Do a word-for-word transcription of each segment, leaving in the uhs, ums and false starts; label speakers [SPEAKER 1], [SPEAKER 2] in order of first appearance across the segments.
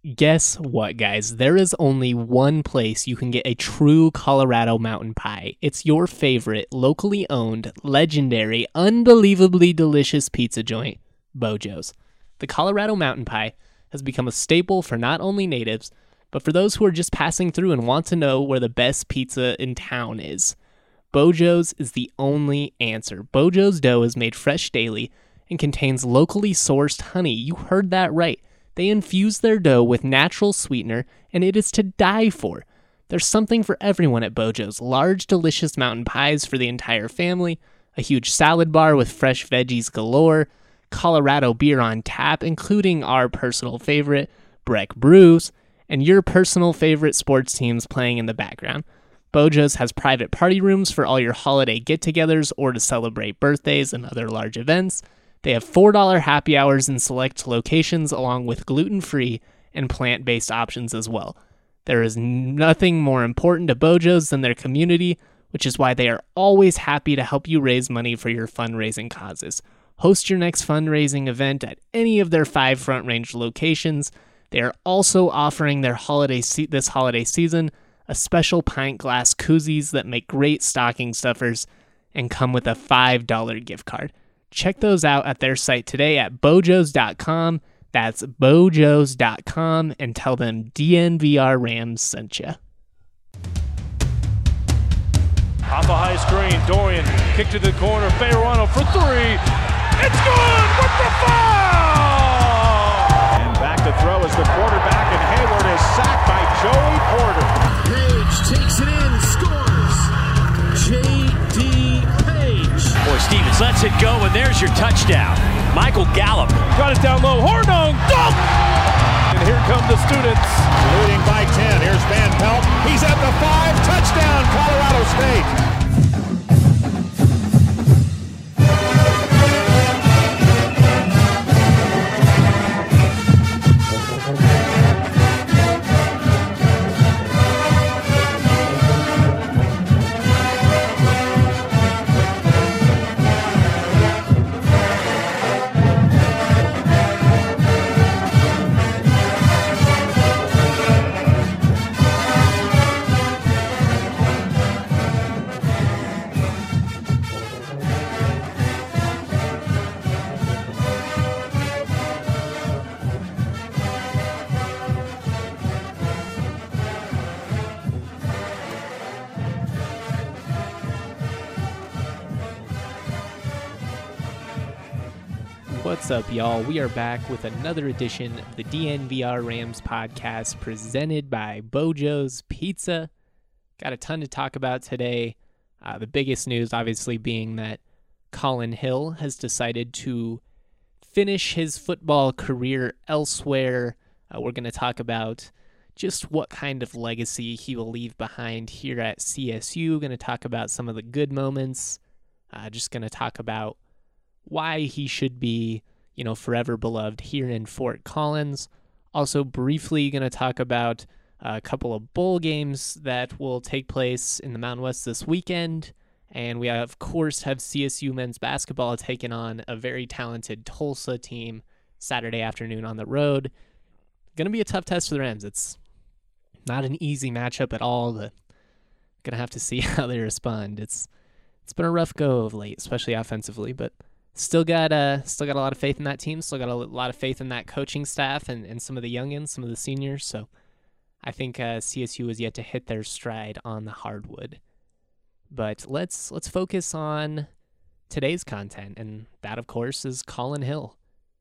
[SPEAKER 1] Guess what, guys? There is only one place you can get a true Colorado mountain pie. It's your favorite, locally owned, legendary, unbelievably delicious pizza joint, Bojo's. The Colorado mountain pie has become a staple for not only natives, but for those who are just passing through and want to know where the best pizza in town is. Bojo's is the only answer. Bojo's dough is made fresh daily and contains locally sourced honey. You heard that right. They infuse their dough with natural sweetener, and it is to die for. There's something for everyone at Bojo's. Large, delicious mountain pies for the entire family, a huge salad bar with fresh veggies galore, Colorado beer on tap, including our personal favorite, Breck Brews, and your personal favorite sports teams playing in the background. Bojo's has private party rooms for all your holiday get-togethers or to celebrate birthdays and other large events. They have four dollars happy hours in select locations, along with gluten-free and plant-based options as well. There is nothing more important to Bojo's than their community, which is why they are always happy to help you raise money for your fundraising causes. Host your next fundraising event at any of their five Front Range locations. They are also offering their holiday se- this holiday season a special pint glass koozies that make great stocking stuffers and come with a five dollars gift card. Check those out at their site today at bojos dot com. That's bojos dot com, and tell them D N V R Rams sent you.
[SPEAKER 2] Off a high screen, Dorian kick to the corner, Fayerano for three. It's good with the foul! And back to throw is the quarterback, and Hayward is sacked by Joey Porter.
[SPEAKER 3] Page takes it in, scores. J D Page.
[SPEAKER 4] Boy, Stevens lets it go, and there's your touchdown. Michael Gallup.
[SPEAKER 2] Got it down low, Hornung, dunk! And here come the students.
[SPEAKER 5] Leading by ten, here's Van Pelt. He's at the five, touchdown, Colorado State.
[SPEAKER 1] What's up, y'all? We are back with another edition of the D N V R Rams podcast presented by Bojo's Pizza. Got a ton to talk about today. Uh, the biggest news, obviously, being that Colin Hill has decided to finish his football career elsewhere. Uh, we're going to talk about just what kind of legacy he will leave behind here at C S U. Going to talk about some of the good moments. Uh, just going to talk about why he should be, you know, forever beloved here in Fort Collins. Also, briefly going to talk about a couple of bowl games that will take place in the Mountain West this weekend. And we, of course, have C S U men's basketball taking on a very talented Tulsa team Saturday afternoon on the road. Going to be a tough test for the Rams. It's not an easy matchup at all. But going to have to see how they respond. It's It's been a rough go of late, especially offensively, but Still got uh, still got a lot of faith in that team. Still got a lot of faith in that coaching staff and, and some of the youngins, some of the seniors. So I think uh, C S U is yet to hit their stride on the hardwood. But let's let's focus on today's content, and that, of course, is Colin Hill.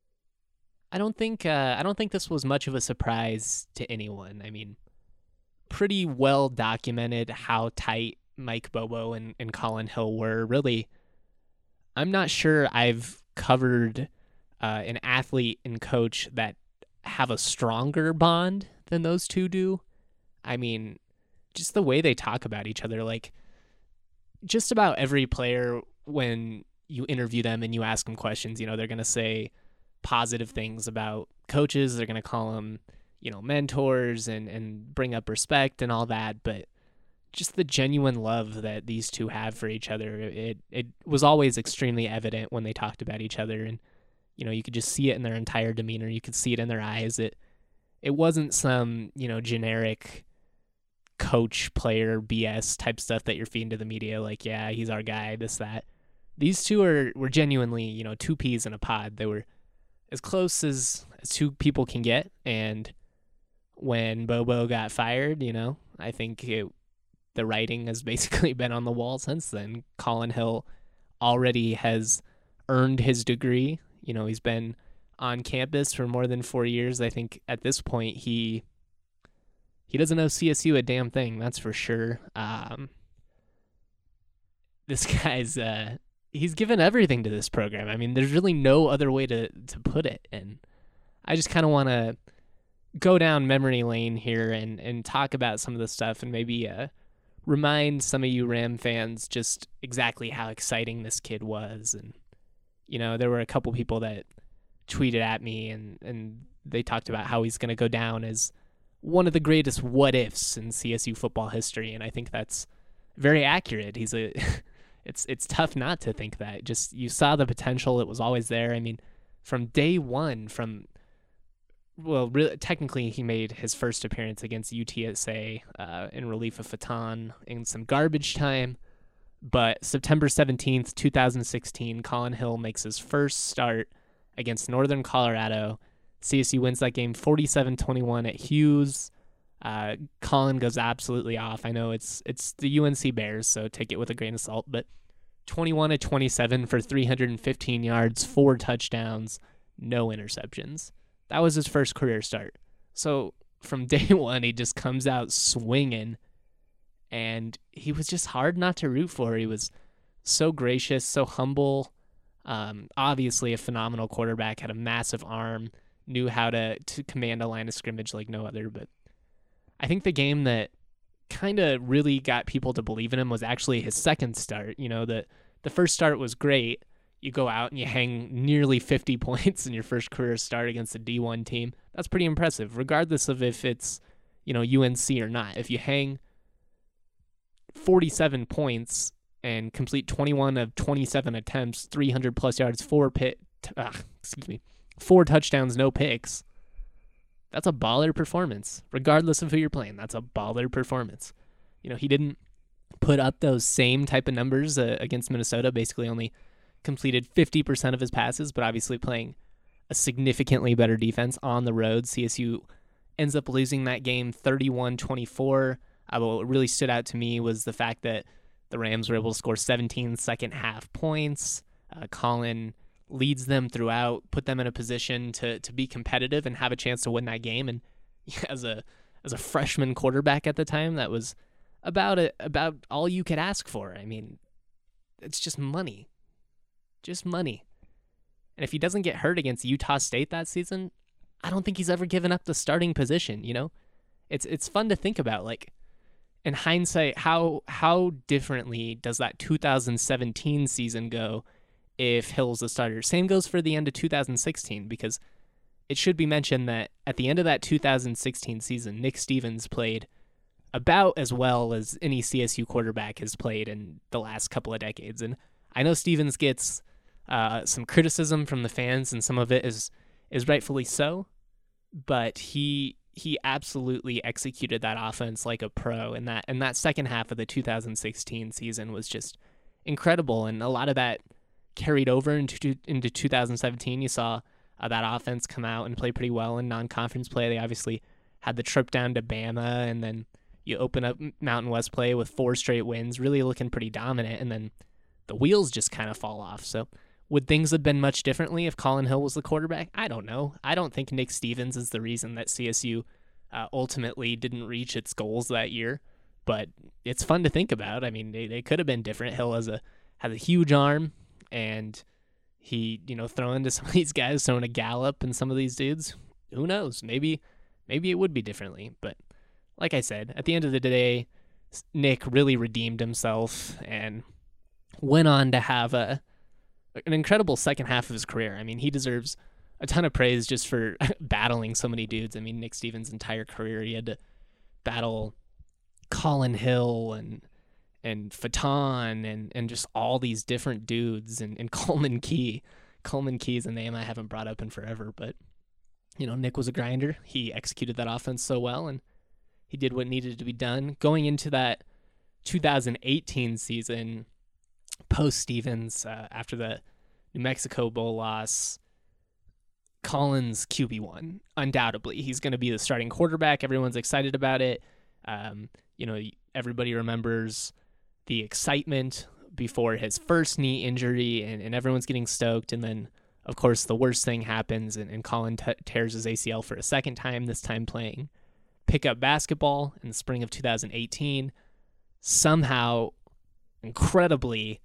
[SPEAKER 1] I don't think uh, I don't think this was much of a surprise to anyone. I mean, pretty well documented how tight Mike Bobo and, and Colin Hill were. Really, I'm not sure I've covered uh, an athlete and coach that have a stronger bond than those two do. I mean, just the way they talk about each other, like just about every player, when you interview them and you ask them questions, you know, they're going to say positive things about coaches. They're going to call them, you know, mentors and, and bring up respect and all that. But just the genuine love that these two have for each other, it it was always extremely evident when they talked about each other. And, you know, you could just see it in their entire demeanor. You could see it in their eyes. It it wasn't some, you know, generic coach player B S type stuff that you're feeding to the media. Like, yeah, he's our guy, this, that. These two are were genuinely, you know, two peas in a pod. They were as close as, as two people can get. And when Bobo got fired, you know, I think it, the writing has basically been on the wall since then. Colin Hill already has earned his degree. You know, he's been on campus for more than four years. I think at this point he he doesn't know C S U a damn thing, that's for sure. Um, this guy's uh, he's given everything to this program. I mean, there's really no other way to to put it. And I just kind of want to go down memory lane here and and talk about some of the stuff and maybe uh, remind some of you Ram fans just exactly how exciting this kid was. And you know, there were a couple people that tweeted at me and, and they talked about how he's going to go down as one of the greatest what-ifs in C S U football history, and I think that's very accurate. He's a, it's it's tough not to think that. Just you saw the potential; it was always there. I mean, from day one, from well, really, technically he made his first appearance against U T S A uh, in relief of Fatan in some garbage time. But September seventeenth, twenty sixteen, Colin Hill makes his first start against Northern Colorado. C S U wins that game forty-seven twenty-one at Hughes. Uh, Colin goes absolutely off. I know it's it's the U N C Bears, so take it with a grain of salt, but twenty-one to twenty-seven for three hundred fifteen yards, four touchdowns, no interceptions. That was his first career start. So from day one, he just comes out swinging. And he was just hard not to root for. He was so gracious, so humble. Um, obviously a phenomenal quarterback, had a massive arm, knew how to, to command a line of scrimmage like no other. But I think the game that kind of really got people to believe in him was actually his second start. You know, the, the first start was great. You go out and you hang nearly fifty points in your first career start against a D one team. That's pretty impressive, regardless of if it's, you know, U N C or not. If you hang forty-seven points and complete twenty-one of twenty-seven attempts, three hundred plus yards, four pit, uh, excuse me, four touchdowns, no picks. That's a baller performance, regardless of who you're playing. That's a baller performance. You know, he didn't put up those same type of numbers uh, against Minnesota. Basically, only completed fifty percent of his passes, but obviously playing a significantly better defense on the road. C S U ends up losing that game thirty-one twenty-four. Uh, what really stood out to me was the fact that the Rams were able to score seventeen second half points. Uh, Colin leads them throughout, put them in a position to to be competitive and have a chance to win that game. And as a as a freshman quarterback at the time, that was about a, about all you could ask for. I mean, it's just money, just money. And if he doesn't get hurt against Utah State that season, I don't think he's ever given up the starting position. You know, it's it's fun to think about, like, in hindsight, how how differently does that two thousand seventeen season go if Hill's the starter? Same goes for the end of two thousand sixteen, because it should be mentioned that at the end of that two thousand sixteen season, Nick Stevens played about as well as any C S U quarterback has played in the last couple of decades. And I know Stevens gets uh, some criticism from the fans, and some of it is is rightfully so, but he... he absolutely executed that offense like a pro, and that and that second half of the two thousand sixteen season was just incredible, and a lot of that carried over into into two thousand seventeen. You saw uh, that offense come out and play pretty well in non-conference play. They obviously had the trip down to Bama, and then you open up Mountain West play with four straight wins, really looking pretty dominant, and then the wheels just kind of fall off. So would things have been much differently if Colin Hill was the quarterback? I don't know. I don't think Nick Stevens is the reason that C S U uh, ultimately didn't reach its goals that year, but it's fun to think about. I mean, they, they could have been different. Hill has a has a huge arm, and he, you know, throwing to some of these guys, throwing a Gallup and some of these dudes, who knows? Maybe maybe it would be differently. But like I said, at the end of the day, Nick really redeemed himself and went on to have a an incredible second half of his career. I mean, he deserves a ton of praise just for battling so many dudes. I mean, Nick Stevens' entire career, he had to battle Colin Hill and and Fatan and, and just all these different dudes, and, and Coleman Key. Coleman Key is a name I haven't brought up in forever, but you know, Nick was a grinder. He executed that offense so well, and he did what needed to be done. Going into that two thousand eighteen season, post-Stevens, uh, after the New Mexico Bowl loss, Collins Q B one, undoubtedly. He's going to be the starting quarterback. Everyone's excited about it. Um, you know, everybody remembers the excitement before his first knee injury, and, and everyone's getting stoked. And then, of course, the worst thing happens, and, and Colin t- tears his A C L for a second time, this time playing pickup basketball in the spring of two thousand eighteen. Somehow, incredibly,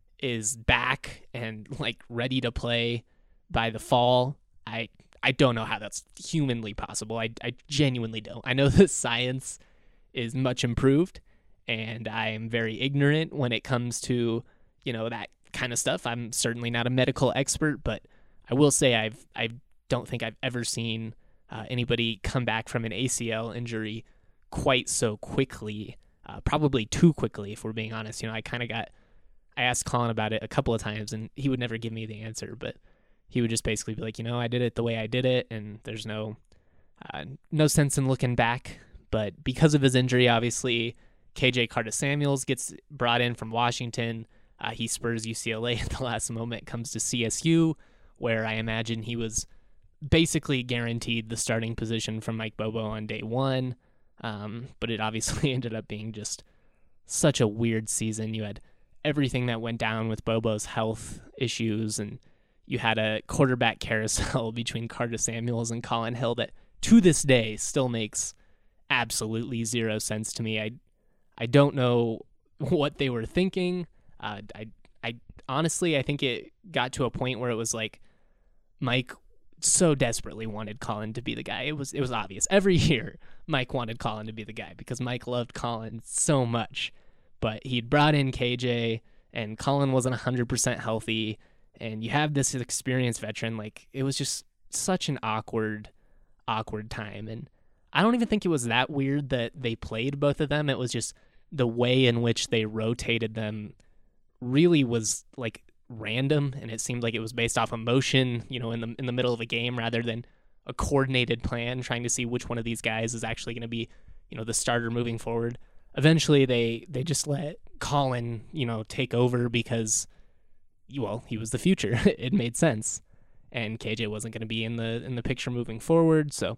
[SPEAKER 1] is back and like ready to play by the fall. I I don't know how that's humanly possible. I, I genuinely don't. I know the science is much improved, and I am very ignorant when it comes to, you know, that kind of stuff. I'm certainly not a medical expert, but I will say I've I don't think I've ever seen uh, anybody come back from an A C L injury quite so quickly. Uh, probably too quickly, if we're being honest. You know, I kind of got, I asked Colin about it a couple of times, and he would never give me the answer, but he would just basically be like, you know, I did it the way I did it, and there's no, uh, no sense in looking back. But because of his injury, obviously, K J Carter-Samuels gets brought in from Washington. Uh, he spurs U C L A at the last moment, comes to C S U, where I imagine he was basically guaranteed the starting position from Mike Bobo on day one. Um, but it obviously ended up being just such a weird season. You had everything that went down with Bobo's health issues, and you had a quarterback carousel between Carter-Samuels and Colin Hill that to this day still makes absolutely zero sense to me. I I don't know what they were thinking. Uh, I I honestly I think it got to a point where it was like Mike so desperately wanted Colin to be the guy. It was it was obvious. Every year, Mike wanted Colin to be the guy because Mike loved Colin so much. But he'd brought in K J, and Colin wasn't one hundred percent healthy, and you have this experienced veteran. Like, it was just such an awkward, awkward time. And I don't even think it was that weird that they played both of them. It was just the way in which they rotated them really was, like, random, and it seemed like it was based off emotion, you know, in the in the middle of a game rather than a coordinated plan trying to see which one of these guys is actually going to be, you know, the starter moving forward. Eventually they they just let Colin, you know, take over because, well, he was the future. It made sense, and K J wasn't going to be in the in the picture moving forward. So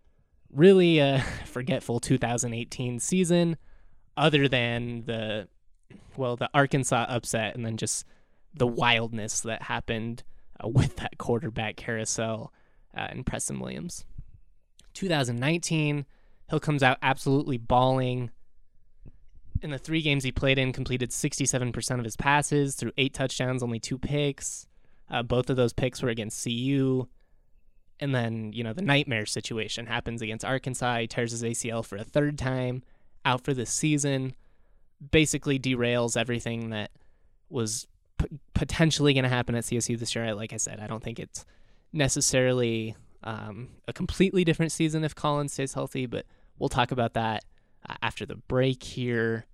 [SPEAKER 1] really a forgetful two thousand eighteen season, other than the well the Arkansas upset, and then just the wildness that happened uh, with that quarterback carousel uh, and Preston Williams. two thousand nineteen, Hill comes out absolutely balling. In the three games he played in, completed sixty-seven percent of his passes, threw eight touchdowns, only two picks. Uh, both of those picks were against C U. And then, you know, the nightmare situation happens against Arkansas. He tears his A C L for a third time, out for this season. Basically derails everything that was p- potentially going to happen at C S U this year. Like I said, I don't think it's necessarily um, a completely different season if Colin stays healthy, but we'll talk about that uh, after the break here.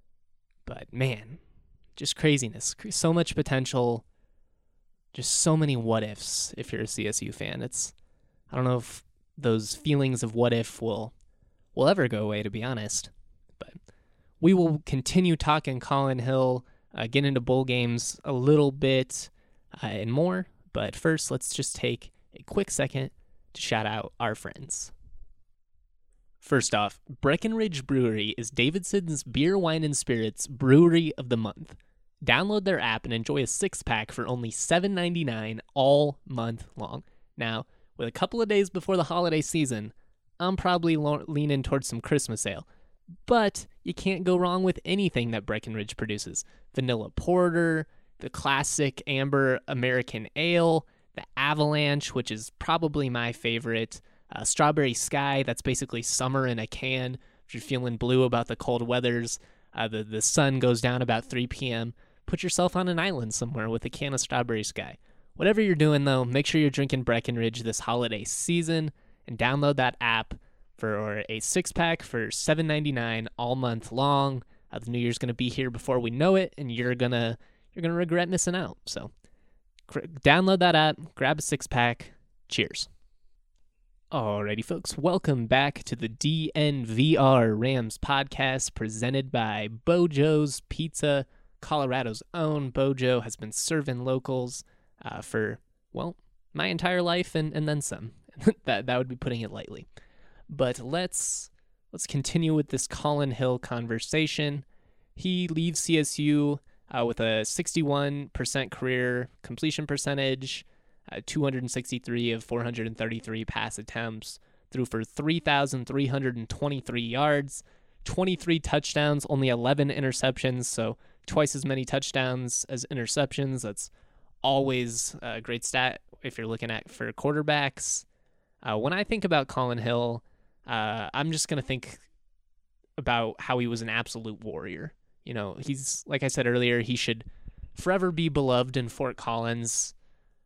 [SPEAKER 1] But man, just craziness. So much potential. Just so many what ifs if you're a C S U fan. It's, I don't know if those feelings of what if will will ever go away, to be honest. But we will continue talking Colin Hill, uh, get into bowl games a little bit uh, and more. But first, let's just take a quick second to shout out our friends. First off, Breckenridge Brewery is Davidson's Beer, Wine, and Spirits Brewery of the Month. Download their app and enjoy a six-pack for only seven dollars and ninety-nine cents all month long. Now, with a couple of days before the holiday season, I'm probably lo- leaning towards some Christmas ale. But you can't go wrong with anything that Breckenridge produces. Vanilla Porter, the classic Amber American Ale, the Avalanche, which is probably my favorite, uh, Strawberry Sky, that's basically summer in a can. If you're feeling blue about the cold weathers, uh, the, the sun goes down about three p.m., put yourself on an island somewhere with a can of Strawberry Sky. Whatever you're doing, though, make sure you're drinking Breckenridge this holiday season and download that app for a six-pack for seven dollars and ninety-nine cents all month long. Uh, the new year's going to be here before we know it, and you're going to you're gonna regret missing out. So cr- download that app, grab a six-pack. Cheers. Alrighty, folks, welcome back to the D N V R Rams podcast presented by Bojo's Pizza. Colorado's own Bojo has been serving locals uh, for, well, my entire life and, and then some. that that would be putting it lightly. But let's let's continue with this Collin Hill conversation. He leaves C S U uh, with a sixty-one percent career completion percentage, uh, two hundred sixty-three of four hundred thirty-three pass attempts, threw for three thousand three hundred twenty-three yards, twenty-three touchdowns, only eleven interceptions, so twice as many touchdowns as interceptions. That's always a great stat if you're looking at for quarterbacks. Uh, when I think about Collin Hill, uh, I'm just going to think about how he was an absolute warrior. You know, he's, like I said earlier, he should forever be beloved in Fort Collins.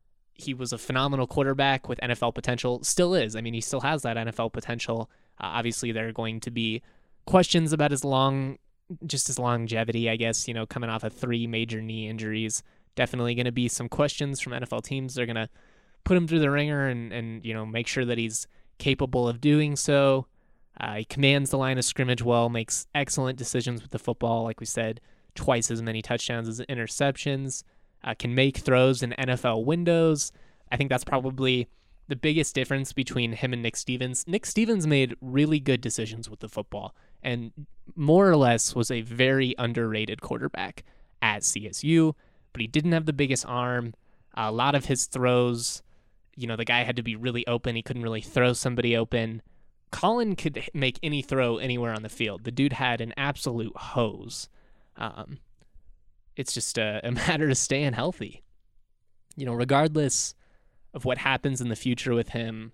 [SPEAKER 1] He was a phenomenal quarterback with N F L potential, still is. I mean, he still has that N F L potential. Uh, obviously, there are going to be questions about his long, just his longevity, I guess, you know, coming off of three major knee injuries. Definitely going to be some questions from N F L teams. They're going to put him through the ringer and, and, you know, make sure that he's capable of doing so. Uh, he commands the line of scrimmage well, makes excellent decisions with the football. Like we said, twice as many touchdowns as interceptions, uh, can make throws in N F L windows. I think that's probably the biggest difference between him and Nick Stevens. Nick Stevens made really good decisions with the football and more or less was a very underrated quarterback at C S U, but he didn't have the biggest arm. A lot of his throws, you know, the guy had to be really open. He couldn't really throw somebody open. Collin could make any throw anywhere on the field. The dude had an absolute hose. Um, it's just a, a matter of staying healthy. You know, regardless of what happens in the future with him,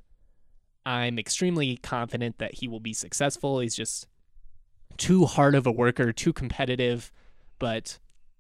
[SPEAKER 1] I'm extremely confident that he will be successful. He's just too hard of a worker, too competitive. But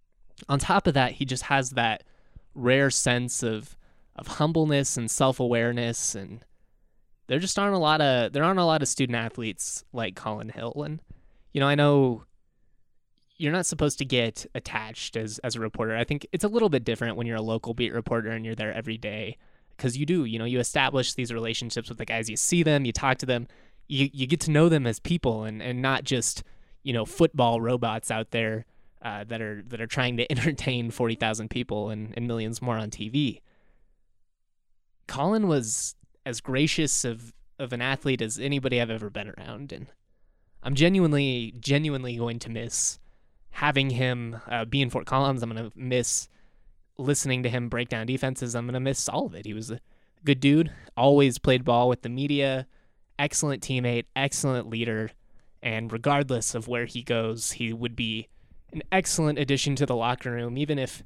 [SPEAKER 1] on top of that, he just has that rare sense of of humbleness and self-awareness, and there just aren't a lot of there aren't a lot of student athletes like Collin Hill. And you know, I know you're not supposed to get attached as as a reporter. I think it's a little bit different when you're a local beat reporter and you're there every day, because you do, you know, you establish these relationships with the guys. You see them, you talk to them, you you get to know them as people, and and not just, you know, football robots out there uh, that are that are trying to entertain forty thousand people and, and millions more on T V. Collin was as gracious of, of an athlete as anybody I've ever been around, and I'm genuinely, genuinely going to miss having him uh, be in Fort Collins. I'm going to miss listening to him break down defenses. I'm going to miss all of it. He was a good dude, always played ball with the media, excellent teammate, excellent leader, and regardless of where he goes, he would be an excellent addition to the locker room, even if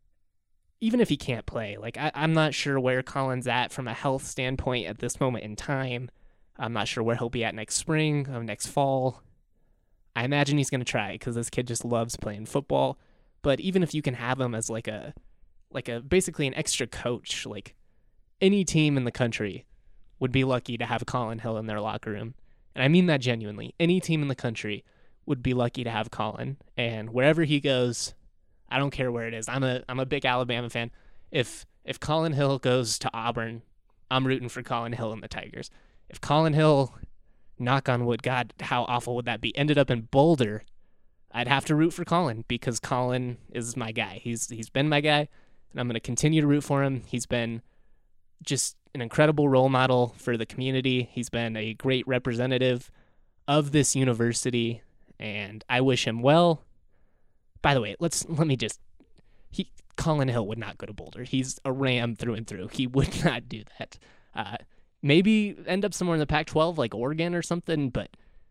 [SPEAKER 1] Even if he can't play. Like, I, I'm not sure where Collin's at from a health standpoint at this moment in time. I'm not sure where he'll be at next spring or next fall. I imagine he's going to try because this kid just loves playing football. But even if you can have him as like a, like a basically an extra coach, like any team in the country would be lucky to have Collin Hill in their locker room. And I mean that genuinely. Any team in the country would be lucky to have Collin. And wherever he goes, I don't care where it is. I'm a I'm a big Alabama fan. If if Collin Hill goes to Auburn, I'm rooting for Collin Hill and the Tigers. If Collin Hill, knock on wood, God, how awful would that be, ended up in Boulder, I'd have to root for Collin because Collin is my guy. He's he's been my guy, and I'm going to continue to root for him. He's been just an incredible role model for the community. He's been a great representative of this university, and I wish him well. By the way, let's let me just he Collin Hill would not go to Boulder. He's a Ram through and through. He would not do that. Uh, maybe end up somewhere in the Pac twelve like Oregon or something, but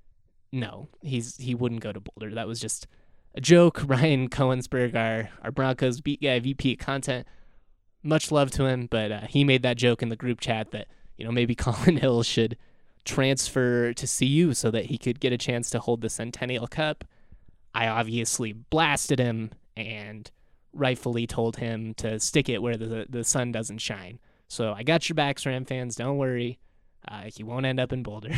[SPEAKER 1] no, he's he wouldn't go to Boulder. That was just a joke. Ryan Cohensberg, our our Broncos beat guy, V P of content, much love to him, but uh, he made that joke in the group chat that, you know, maybe Collin Hill should transfer to C U so that he could get a chance to hold the Centennial Cup. I obviously blasted him and rightfully told him to stick it where the the sun doesn't shine. So I got your backs, Ram fans. Don't worry. Uh, he won't end up in Boulder.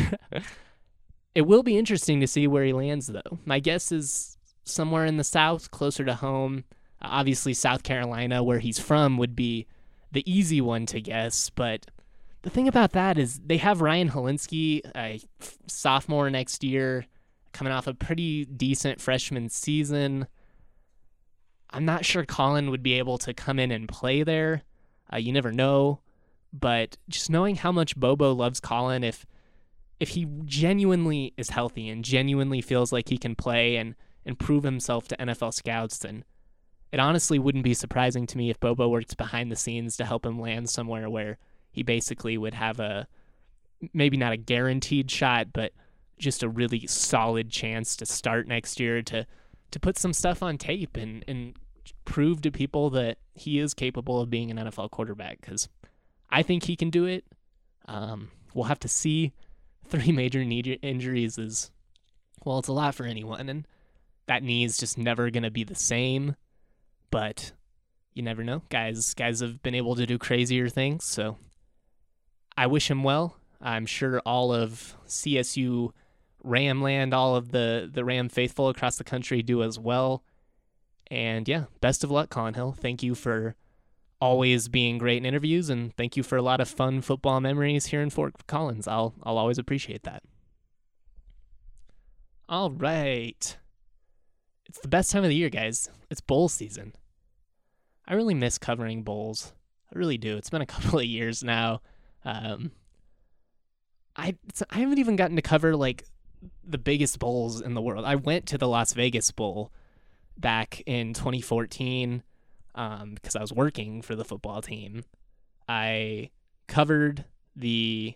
[SPEAKER 1] It will be interesting to see where he lands, though. My guess is somewhere in the South, closer to home. Uh, obviously, South Carolina, where he's from, would be the easy one to guess. But the thing about that is they have Ryan Helinski, a sophomore next year, coming off a pretty decent freshman season. I'm not sure Colin would be able to come in and play there. Uh, you never know. But just knowing how much Bobo loves Colin, if if he genuinely is healthy and genuinely feels like he can play and, and prove himself to N F L scouts, then it honestly wouldn't be surprising to me if Bobo worked behind the scenes to help him land somewhere where he basically would have a, maybe not a guaranteed shot, but just a really solid chance to start next year, to to put some stuff on tape and, and prove to people that he is capable of being an N F L quarterback, because I think he can do it. Um, we'll have to see. Three major knee injuries is, well, it's a lot for anyone, and that knee is just never going to be the same, but you never know. Guys, guys have been able to do crazier things, so I wish him well. I'm sure all of C S U Ramland, all of the, the Ram faithful across the country do as well. And yeah, best of luck, Colin Hill. Thank you for always being great in interviews, and thank you for a lot of fun football memories here in Fort Collins. I'll I'll always appreciate that. All right. It's the best time of the year, guys. It's bowl season. I really miss covering bowls. I really do. It's been a couple of years now. Um, I I haven't even gotten to cover like the biggest bowls in the world. I went to the Las Vegas Bowl back in twenty fourteen. Um, because I was working for the football team. I covered the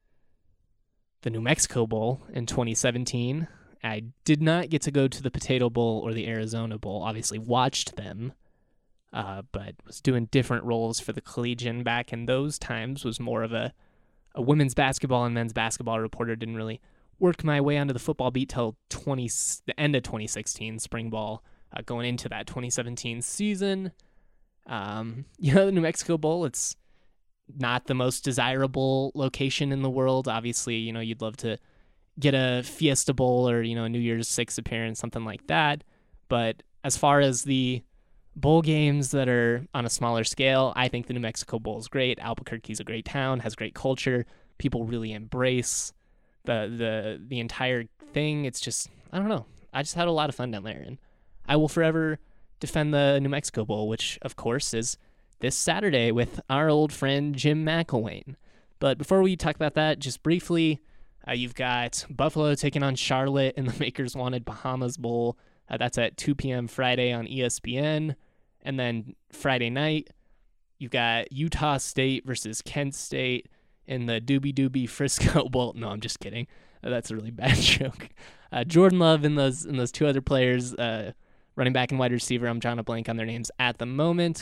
[SPEAKER 1] the New Mexico Bowl in twenty seventeen. I did not get to go to the Potato Bowl or the Arizona Bowl. Obviously watched them, uh, but was doing different roles for the Collegian back in those times. Was more of a, a women's basketball and men's basketball reporter. Didn't really work my way onto the football beat till twenty the end of twenty sixteen, spring ball, uh, going into that twenty seventeen season. Um, you know, the New Mexico Bowl, it's not the most desirable location in the world. Obviously, you know, you'd love to get a Fiesta Bowl or, you know, a New Year's Six appearance, something like that. But as far as the bowl games that are on a smaller scale, I think the New Mexico Bowl is great. Albuquerque's a great town, has great culture. People really embrace the, the, the entire thing. It's just, I don't know. I just had a lot of fun down there, and I will forever defend the New Mexico Bowl, which, of course, is this Saturday with our old friend Jim McElwain. But before we talk about that, just briefly, uh, you've got Buffalo taking on Charlotte in the Makers Wanted Bahamas Bowl. Uh, that's at two p.m. Friday on E S P N. And then Friday night, you've got Utah State versus Kent State in the Doobie Doobie Frisco Bowl. No, I'm just kidding. Uh, that's a really bad joke. Uh, Jordan Love and those and those two other players, uh, running back and wide receiver, I'm drawing a blank on their names at the moment,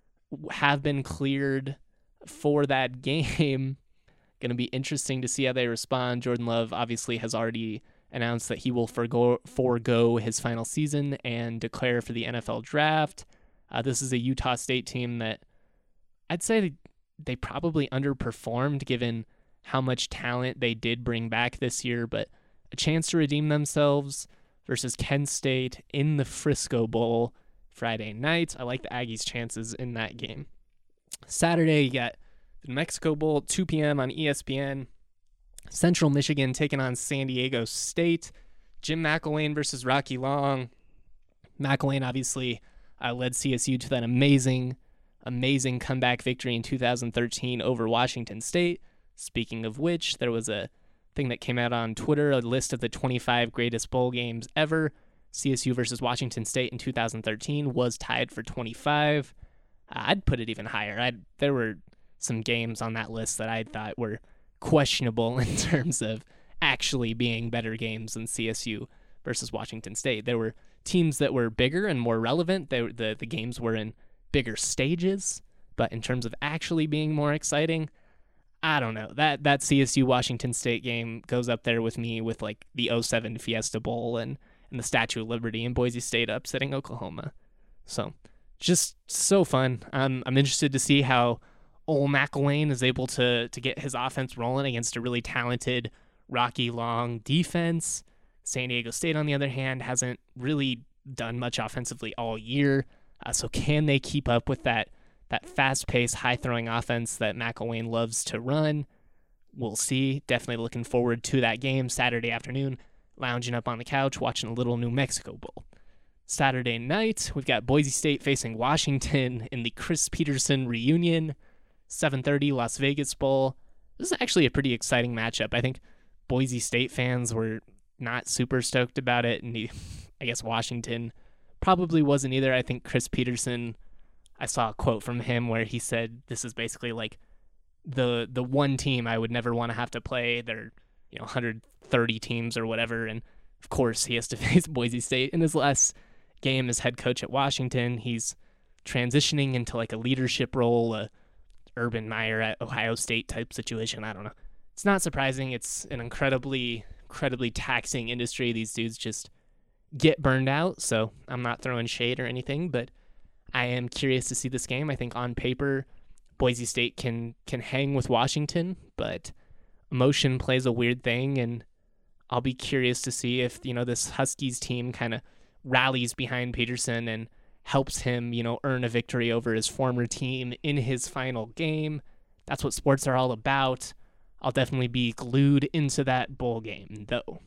[SPEAKER 1] have been cleared for that game. Going to be interesting to see how they respond. Jordan Love obviously has already announced that he will forgo, forego his final season and declare for the N F L draft. Uh, this is a Utah State team that I'd say they probably underperformed given how much talent they did bring back this year, but a chance to redeem themselves versus Kent State in the Frisco Bowl Friday night. I like the Aggies' chances in that game. Saturday, you got the New Mexico Bowl, two p.m. on E S P N. Central Michigan taking on San Diego State. Jim McElwain versus Rocky Long. McElwain obviously uh, led C S U to that amazing, amazing comeback victory in two thousand thirteen over Washington State. Speaking of which, there was a thing that came out on Twitter, a list of the twenty-five greatest bowl games ever. C S U versus Washington State in two thousand thirteen was tied for twenty-five. Uh, I'd put it even higher. I'd, there were some games on that list that I thought were questionable in terms of actually being better games than C S U versus Washington State. There were teams that were bigger and more relevant. They, the, the games were in bigger stages, but in terms of actually being more exciting, I don't know. That that C S U Washington State game goes up there with me with like the oh seven Fiesta Bowl and, and the Statue of Liberty and Boise State upsetting Oklahoma. So just so fun. I'm I'm interested to see how Ole McElwain is able to to get his offense rolling against a really talented Rocky Long defense. San Diego State, on the other hand, hasn't really done much offensively all year. Uh, so can they keep up with that that fast-paced, high-throwing offense that McElwain loves to run? we'll see. Definitely looking forward to that game Saturday afternoon, lounging up on the couch, watching a little New Mexico Bowl. Saturday night, we've got Boise State facing Washington in the Chris Petersen reunion, seven thirty Las Vegas Bowl. This is actually a pretty exciting matchup. I think Boise State fans were not super stoked about it, and he, I guess Washington probably wasn't either. I think Chris Petersen, I saw a quote from him where he said this is basically like the the one team I would never want to have to play. They're, you know, one hundred thirty teams or whatever, and of course he has to face Boise State in his last game as head coach at Washington. He's transitioning into like a leadership role, a Urban Meyer at Ohio State type situation. I don't know. It's not surprising. It's an incredibly, incredibly taxing industry. These dudes just get burned out, so I'm not throwing shade or anything, but I am curious to see this game. I think on paper, Boise State can can hang with Washington, but emotion plays a weird thing, and I'll be curious to see if, you know, this Huskies team kind of rallies behind Petersen and helps him, you know, earn a victory over his former team in his final game. That's what sports are all about. I'll definitely be glued into that bowl game, though.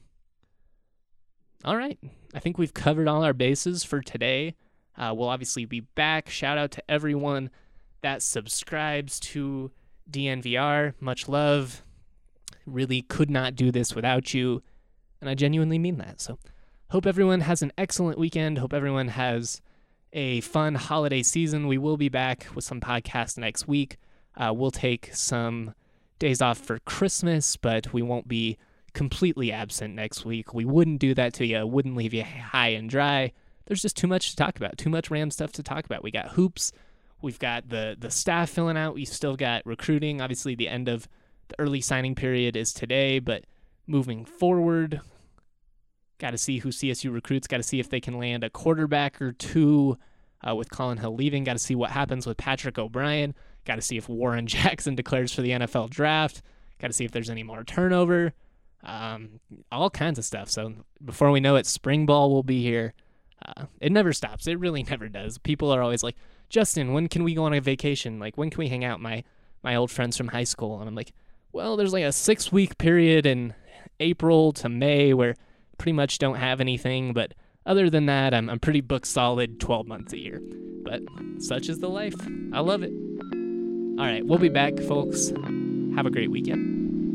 [SPEAKER 1] All right. I think we've covered all our bases for today. Uh, we'll obviously be back. Shout out to everyone that subscribes to D N V R. Much love. Really could not do this without you, and I genuinely mean that. So hope everyone has an excellent weekend. Hope everyone has a fun holiday season. We will be back with some podcasts next week. Uh, we'll take some days off for Christmas, but we won't be completely absent next week. We wouldn't do that to you. Wouldn't leave you high and dry. There's just too much to talk about. Too much Ram stuff to talk about. We got hoops. We've got the the staff filling out. We've still got recruiting. Obviously, the end of the early signing period is today, but moving forward, got to see who C S U recruits. Got to see if they can land a quarterback or two uh, with Colin Hill leaving. Got to see what happens with Patrick O'Brien. Got to see if Warren Jackson declares for the N F L draft. Got to see if there's any more turnover. Um, all kinds of stuff. So before we know it, spring ball will be here. Uh, it never stops. It really never does. People are always like, Justin, when can we go on a vacation? Like, when can we hang out, my my old friends from high school? And I'm like, well, there's like a six-week period in April to May where pretty much don't have anything. But other than that, I'm, I'm pretty booked solid twelve months a year. But such is the life. I love it. All right, we'll be back, folks. Have a great weekend.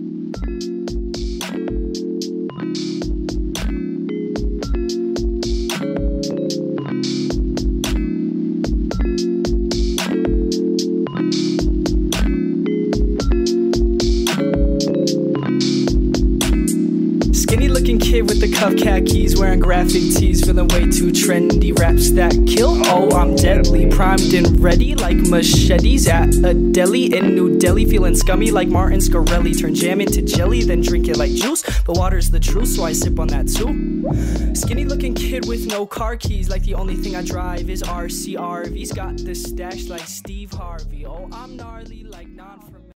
[SPEAKER 6] Kid with the cuff khakis, wearing graphic tees, feeling way too trendy. Raps that kill, oh I'm deadly, primed and ready like machetes at a deli in New Delhi. Feeling scummy like Martin Scarelli, turn jam into jelly, then drink it like juice. But water's the truth, so I sip on that too. Skinny looking kid with no car keys, like the only thing I drive is R C R V's. Got the stash like Steve Harvey, oh I'm gnarly like non